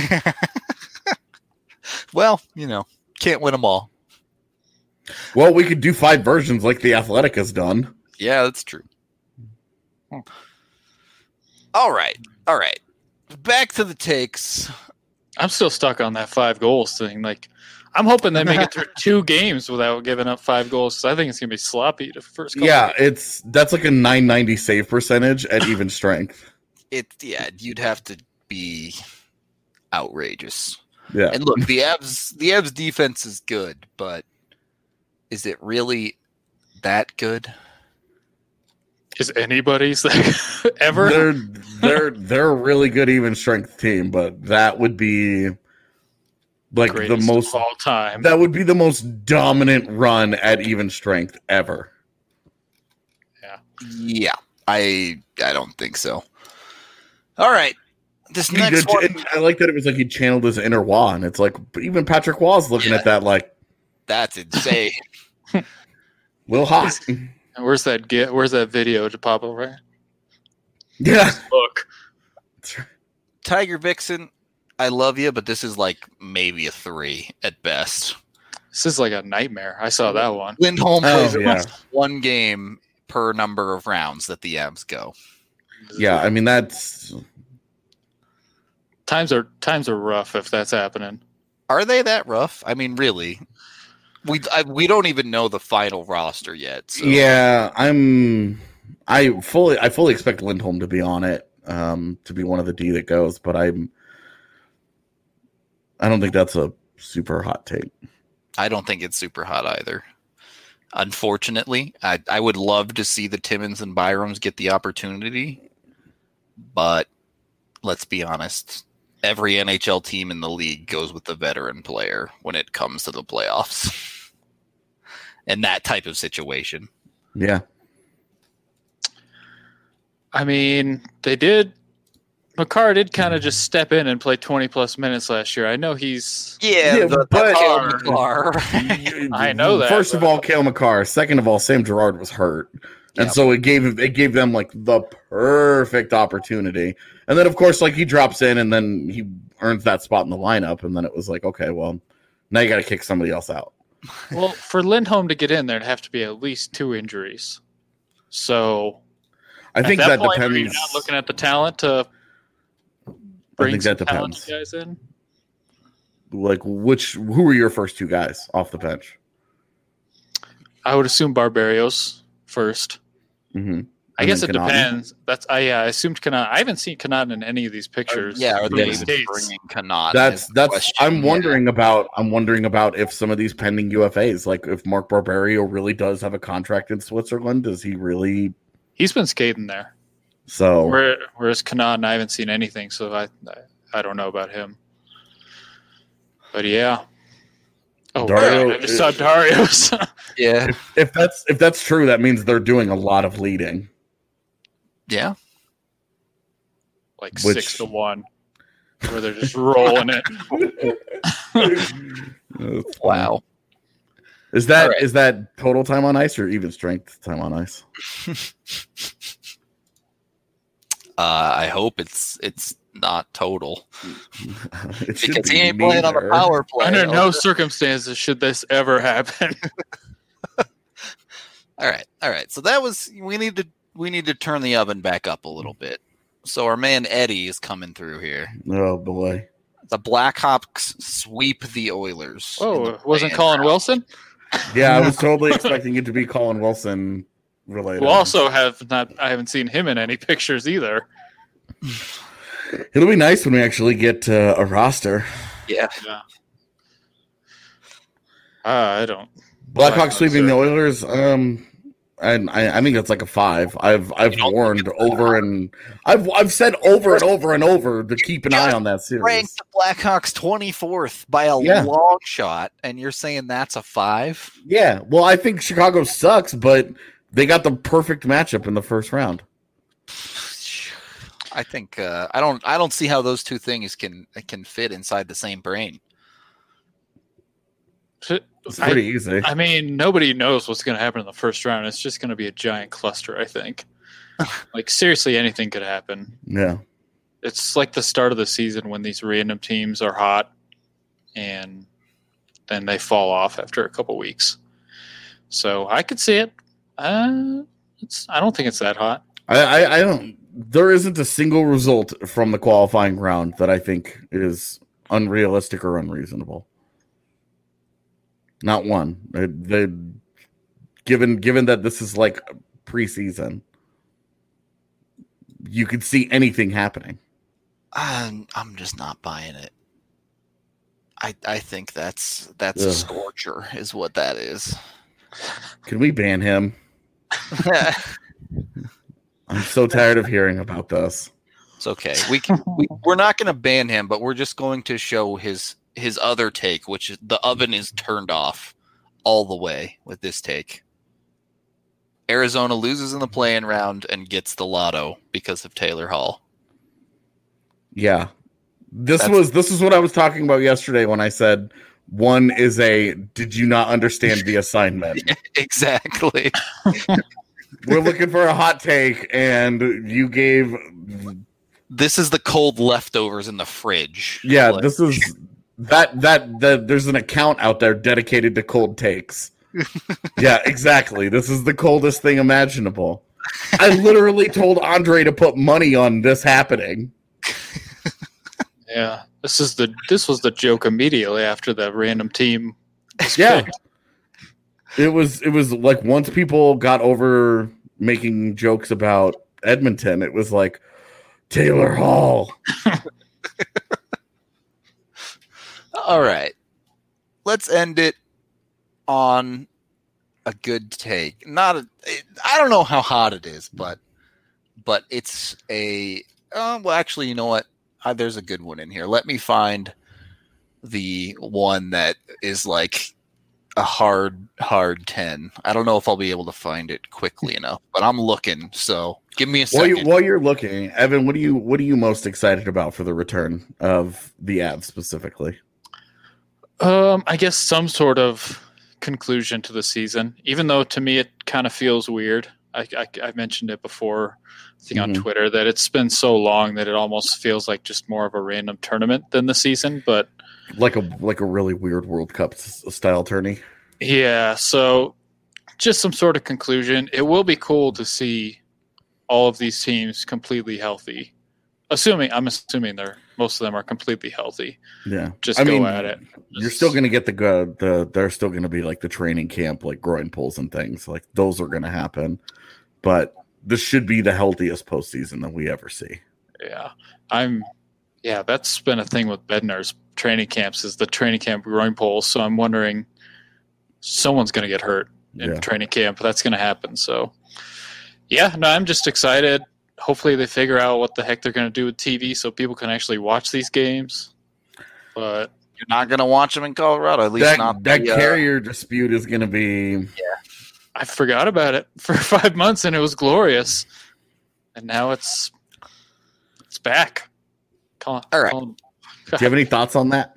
Well, you know, can't win them all. Well, we could do five versions like the Athletic has done. Yeah, that's true. Hmm. All right. All right. Back to the takes. I'm still stuck on that five goals thing. Like, I'm hoping they make it through two games without giving up five goals. Because I think it's gonna be sloppy the first couple Yeah, games. it's that's like a nine ninety save percentage at even strength. It yeah, you'd have to be outrageous. Yeah, and look, the Avs the Avs defense is good, but is it really that good? Is anybody's ever? They're they're they're a really good even strength team, but that would be like Greatest the most of all time. That would be the most dominant run at even strength ever. Yeah. Yeah, I I don't think so. All right, this He next did- one. and I like that it was like he channeled his inner Wah, and it's like even Patrick Wah's looking Yeah. at that like That's insane. Lil hot. Where's that get? Where's that video to pop over? Yeah. Look. Tiger Vixen, I love you, but this is like maybe a three at best. This is like a nightmare. I saw that one. Lindholm Oh, plays yeah. one game per number of rounds that the Avs go. Yeah, I mean that's Times are times are rough if that's happening. Are they that rough? I mean, really? We I, we don't even know the final roster yet. So. yeah, I'm I fully I fully expect Lindholm to be on it, um, to be one of the D that goes, but I'm I don't think that's a super hot take. I don't think it's super hot either. Unfortunately, I, I would love to see the Timmins and Byroms get the opportunity, but let's be honest, every N H L team in the league goes with the veteran player when it comes to the playoffs. In that type of situation. Yeah. I mean, they did. Makar did kind of just step in and play twenty plus minutes last year. I know he's. Yeah, Yeah, the, but- the car. I know that, First of but- all, Cale Makar. Second of all, Sam Girard was hurt. And Yeah. so it gave it gave them like the perfect opportunity. And then of course, like he drops in and then he earns that spot in the lineup. And then it was like, okay, well, now you got to kick somebody else out. Well, for Lindholm to get in, there'd have to be at least two injuries. So I think at that, that, point, are you depends. not looking at the talent to I bring think some that talented depends. guys in? Like which who were your first two guys off the bench? I would assume Barbarios first. Mm-hmm. I guess it Connaughton? depends. That's I yeah, I assumed Connaughton. I haven't seen Connaughton in any of these pictures. Yeah, are from they the even States. bringing Connaughton? That's is the that's. question. I'm Yeah. wondering about. I'm wondering about if some of these pending U F As, like if Mark Barbario really does have a contract in Switzerland, does he really? He's been skating there. So Where, whereas Connaughton, I haven't seen anything, so I, I I don't know about him. But yeah. Oh, Dario- right, I just saw Dario's. Yeah, if that's if that's true, that means they're doing a lot of leading. yeah. like Which- six to one, where they're just rolling it. Wow. Is that All right. is that total time on ice or even strength time on ice? Uh, I hope it's it's not total It should because be he ain't playing on the neither. power play. Under no Okay. circumstances should this ever happen. All right, all right. So that was we need to we need to turn the oven back up a little bit. So our man Eddie is coming through here. Oh boy. The Blackhawks sweep the Oilers. in Oh, the it wasn't play-in Colin round. Wilson, Yeah, I was totally expecting it to be Colin Wilson related. who also have not. I haven't seen him in any pictures either. It'll be nice when we actually get uh, a roster. Yeah, Yeah. Uh, I don't. Blackhawks Blackhawks sweeping are- the Oilers. Um, and I, I think that's like a five. I've I've You don't warned think it's over and I've I've said over and over and over to keep an eye on that series. ranked the Blackhawks twenty-fourth by a Yeah. long shot, and you're saying that's a five? Yeah, well, I think Chicago sucks, but they got the perfect matchup in the first round. I think uh, I don't I don't see how those two things can can fit inside the same brain. It's I- pretty easy. I mean, nobody knows what's going to happen in the first round. It's just going to be a giant cluster, I think. Like, seriously, anything could happen. Yeah, It's like the start of the season when these random teams are hot and then they fall off after a couple weeks. So I could see it. Uh, it's, I don't think it's that hot. I, I I don't. There isn't a single result from the qualifying round that I think is unrealistic or unreasonable. Not one. They, they given given that this is like preseason, you could see anything happening. I'm, I'm just not buying it. I I think that's that's a Ugh. scorcher is what that is. Can we ban him? I'm so tired of hearing about this. It's okay. We can. We, we're not going to ban him, but we're just going to show his his other take, which is the oven is turned off all the way with this take. Arizona loses in the play-in round and gets the lotto because of Taylor Hall. Yeah. This That's, was this is what I was talking about yesterday when I said one is a did you not understand the assignment? Exactly. We're looking for a hot take and you gave this is the cold leftovers in the fridge. Yeah, like, this is that that that there's an account out there dedicated to cold takes. Yeah, exactly. This is the coldest thing imaginable. I literally told Andre to put money on this happening. Yeah, this is the this was the joke immediately after the random team. Yeah, picked. it was it was like once people got over making jokes about Edmonton, it was like Taylor Hall. All right, let's end it on a good take. Not a, I don't know how hot it is, but but it's a uh, well. Actually, you know what? Uh, there's a good one in here. Let me find the one that is like a hard, hard ten. I don't know if I'll be able to find it quickly enough, but I'm looking. So give me a While, second. you, while you're looking, Evan, what are you what are you most excited about for the return of the Avs specifically? Um, I guess some sort of conclusion to the season, even though to me it kind of feels weird. I, I, I mentioned it before, I think Mm-hmm. on Twitter, that it's been so long that it almost feels like just more of a random tournament than the season. But Like a like a really weird World Cup s- style tourney. yeah, so just some sort of conclusion. It will be cool to see all of these teams completely healthy. Assuming I'm assuming they're most of them are completely healthy. Yeah, Just I go mean, at it. You're still going to get the go- the there's still going to be like the training camp, like groin pulls and things like those are going to happen. But this should be the healthiest postseason that we ever see. Yeah, I'm. Yeah, that's been a thing with Bednar's training camps is the training camp groin pulls. So I'm wondering, someone's going to get hurt in Yeah. training camp. That's going to happen. So, yeah, no, I'm just excited. Hopefully, they figure out what the heck they're going to do with T V so people can actually watch these games. But You're not going to watch them in Colorado, at least That not that the, uh, carrier dispute is going to be I forgot about it for five months, and it was glorious. And now it's it's back. Call, All right. call- Do you have any thoughts on that?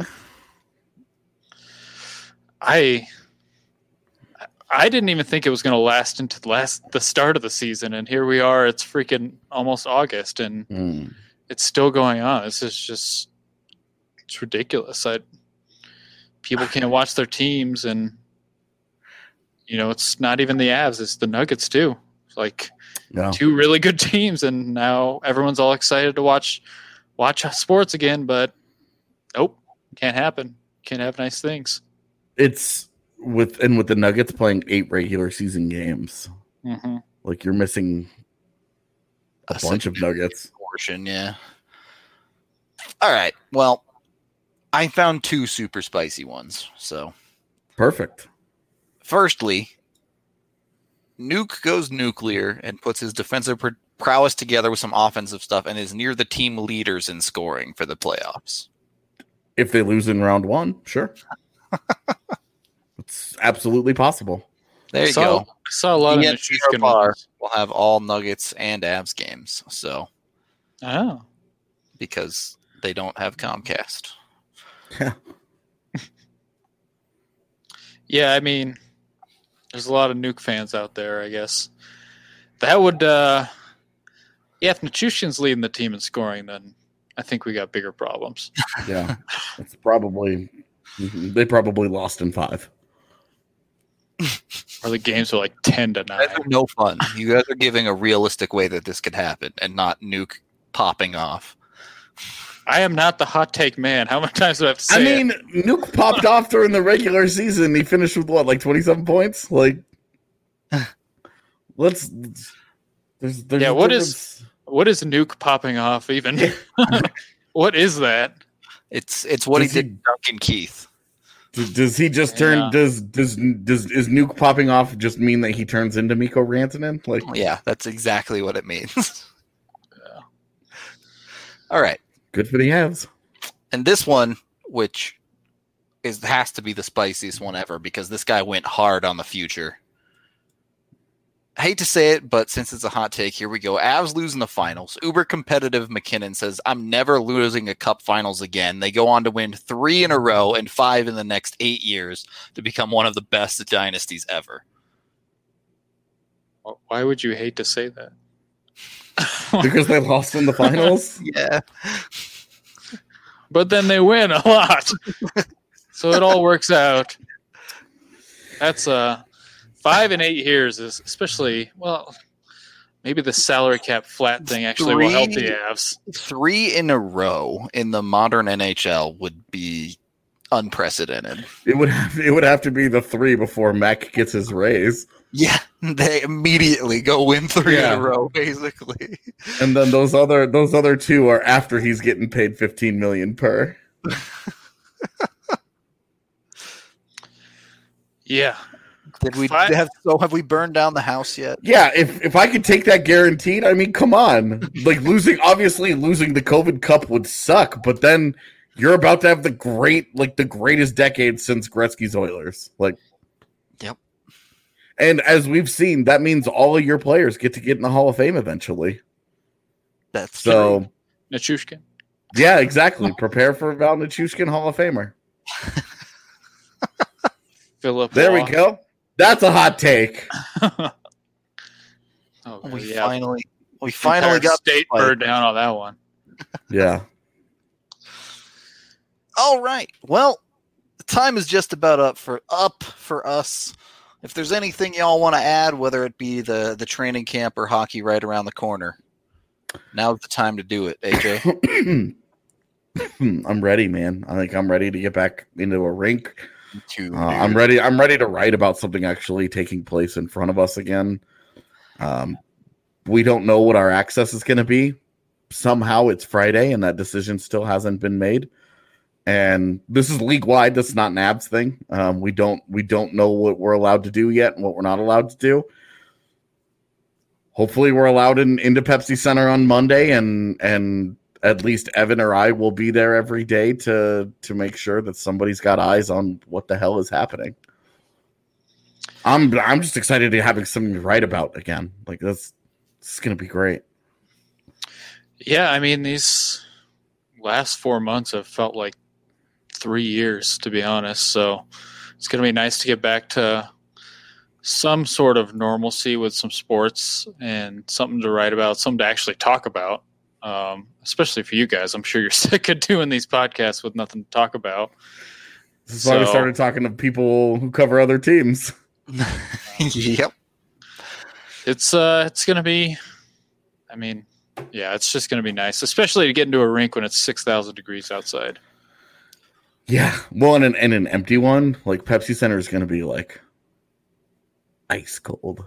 I I didn't even think it was going to last into the last the start of the season, and here we are. It's freaking almost August, and Mm. it's still going on. This is just it's ridiculous. I people can't watch their teams, and you know it's not even the Avs; it's the Nuggets too. It's like No. two really good teams, and now everyone's all excited to watch watch sports again. But nope, can't happen. Can't have nice things. It's with and with the Nuggets playing eight regular season games, hmm like you're missing a A bunch of Nuggets. portion, yeah. All right. Well, I found two super spicy ones. So, Perfect. firstly, Nuke goes nuclear and puts his defensive pr- prowess together with some offensive stuff and is near the team leaders in scoring for the playoffs. If they lose in round one, sure. It's absolutely possible. There you saw, go. I saw a lot He of and Nichushkin Bar ones. will have all Nuggets and Avs games. So, Oh, because they don't have Comcast. Yeah. yeah. I mean, there's a lot of Nuke fans out there. I guess that would. Uh, yeah, if Nichushkin's leading the team in scoring, then I think we got bigger problems. Yeah. It's probably they probably lost in five. Or the games are like ten to You guys nine. are no fun. You guys are giving a realistic way that this could happen and not Nuke popping off. I am not the hot take man. How many times do I have to say I mean, it? Nuke popped off during the regular season. He finished with what, like twenty-seven points? Like, let's. There's, there's Yeah, a what is- difference. What is Nuke popping off even? What is that? It's it's what he Does he- did to Duncan Keith. D- Does he just turn? Yeah. Does does does is Nuke popping off just mean that he turns into Mikko Rantanen? Like, Yeah, that's exactly what it means. Yeah. All right. good for the Avs. And this one, which is has to be the spiciest one ever because this guy went hard on the future. I hate to say it, but since it's a hot take, here we go. Avs losing the finals. Uber competitive McKinnon says, I'm never losing a cup finals again. They go on to win three in a row and five in the next eight years to become one of the best dynasties ever. Why would you hate to say that? Because they lost in the finals. Yeah. But then they win a lot. So it all works out. That's uh five and eight years is especially, well, maybe the salary cap flat thing actually will help the Three- Avs. Three in a row in the modern N H L would be unprecedented. It would have it would have to be the three before Mac gets his raise, Yeah, they immediately go win three Yeah. in a row, basically. and then those other those other two are after he's getting paid fifteen million per. Yeah. Did we Fi- have so have we burned down the house yet? Yeah, if if I could take that guaranteed, I mean, come on. Like losing, obviously losing the COVID Cup would suck, but then you're about to have the great, like the greatest decade since Gretzky's Oilers. Like, Yep. and as we've seen, that means all of your players get to get in the Hall of Fame eventually. That's So, true. Nichushkin. yeah, exactly. Prepare for Val Nichushkin Hall of Famer. Philip. There we Law. go. That's a hot take. Oh, We yeah. finally we finally Entire got state fight. bird down on that one. Yeah. All right. Well, the time is just about up for up for us. If there's anything y'all want to add, whether it be the the training camp or hockey right around the corner, now's the time to do it, A J. I'm ready, man. I think I'm ready to get back into a rink. To Uh, I'm ready. I'm ready to write about something actually taking place in front of us again. Um, we don't know what our access is going to be. Somehow it's Friday, and that decision still hasn't been made. And this is league wide. That's not an Abs thing. Um, we don't. We don't know what we're allowed to do yet, and what we're not allowed to do. Hopefully, we're allowed in into Pepsi Center on Monday, and and at least Evan or I will be there every day to to make sure that somebody's got eyes on what the hell is happening. I'm I'm just excited to having something to write about again. Like that's this is gonna be great. Yeah, I mean, these last four months have felt like three years, to be honest. So it's going to be nice to get back to some sort of normalcy with some sports and something to write about, something to actually talk about, um, especially for you guys. I'm sure you're sick of doing these podcasts with nothing to talk about. This is why we So- started talking to people who cover other teams. Yep. It's uh, it's going to be, I mean, yeah, it's just going to be nice, especially to get into a rink when it's six thousand degrees outside. Yeah. Well, and an, and an empty one, like Pepsi Center is going to be like ice cold.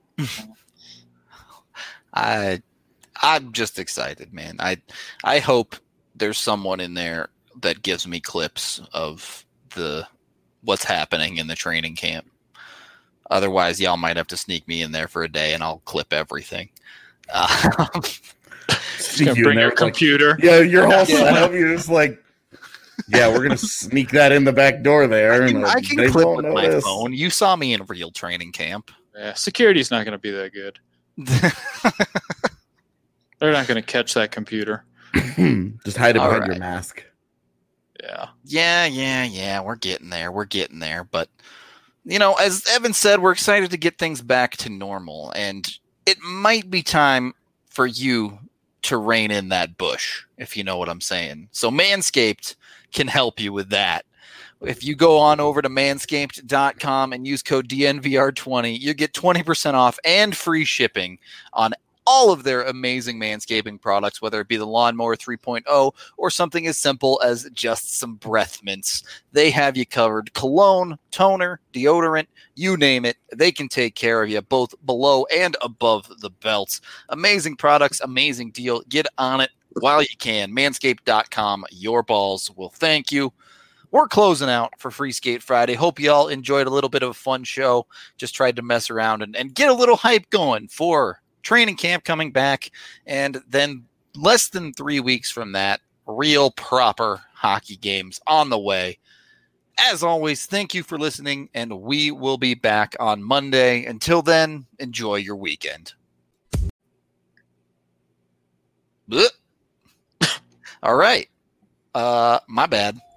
I I'm just excited, man. I I hope there's someone in there that gives me clips of the what's happening in the training camp. Otherwise, y'all might have to sneak me in there for a day, and I'll clip everything. Uh, You're gonna bring your computer. Yeah, your whole Yeah. setup. You're just like, yeah, we're gonna sneak that in the back door there. I and can, uh, I can they clip won't with my notice. phone. You saw me in real training camp. Yeah, security's not going to be that good. They're not going to catch that computer. Just hide it All behind your right. mask. Yeah. Yeah, yeah, yeah. We're getting there. We're getting there. But, you know, as Evan said, we're excited to get things back to normal. And it might be time for you to rein in that bush, if you know what I'm saying. So Manscaped can help you with that. If you go on over to manscaped dot com and use code D N V R twenty, you get twenty percent off and free shipping on all of their amazing manscaping products, whether it be the Lawnmower three point oh or something as simple as just some breath mints. They have you covered. Cologne, toner, deodorant, you name it. They can take care of you both below and above the belts. Amazing products, amazing deal. Get on it while you can. manscaped dot com. Your balls will thank you. we're closing out for Free Skate Friday. Hope you all enjoyed a little bit of a fun show. Just tried to mess around and, and get a little hype going for training camp coming back. And then less than three weeks from that, real proper hockey games on the way. As always, thank you for listening, and we will be back on Monday. Until then, enjoy your weekend. All right. Uh, my bad.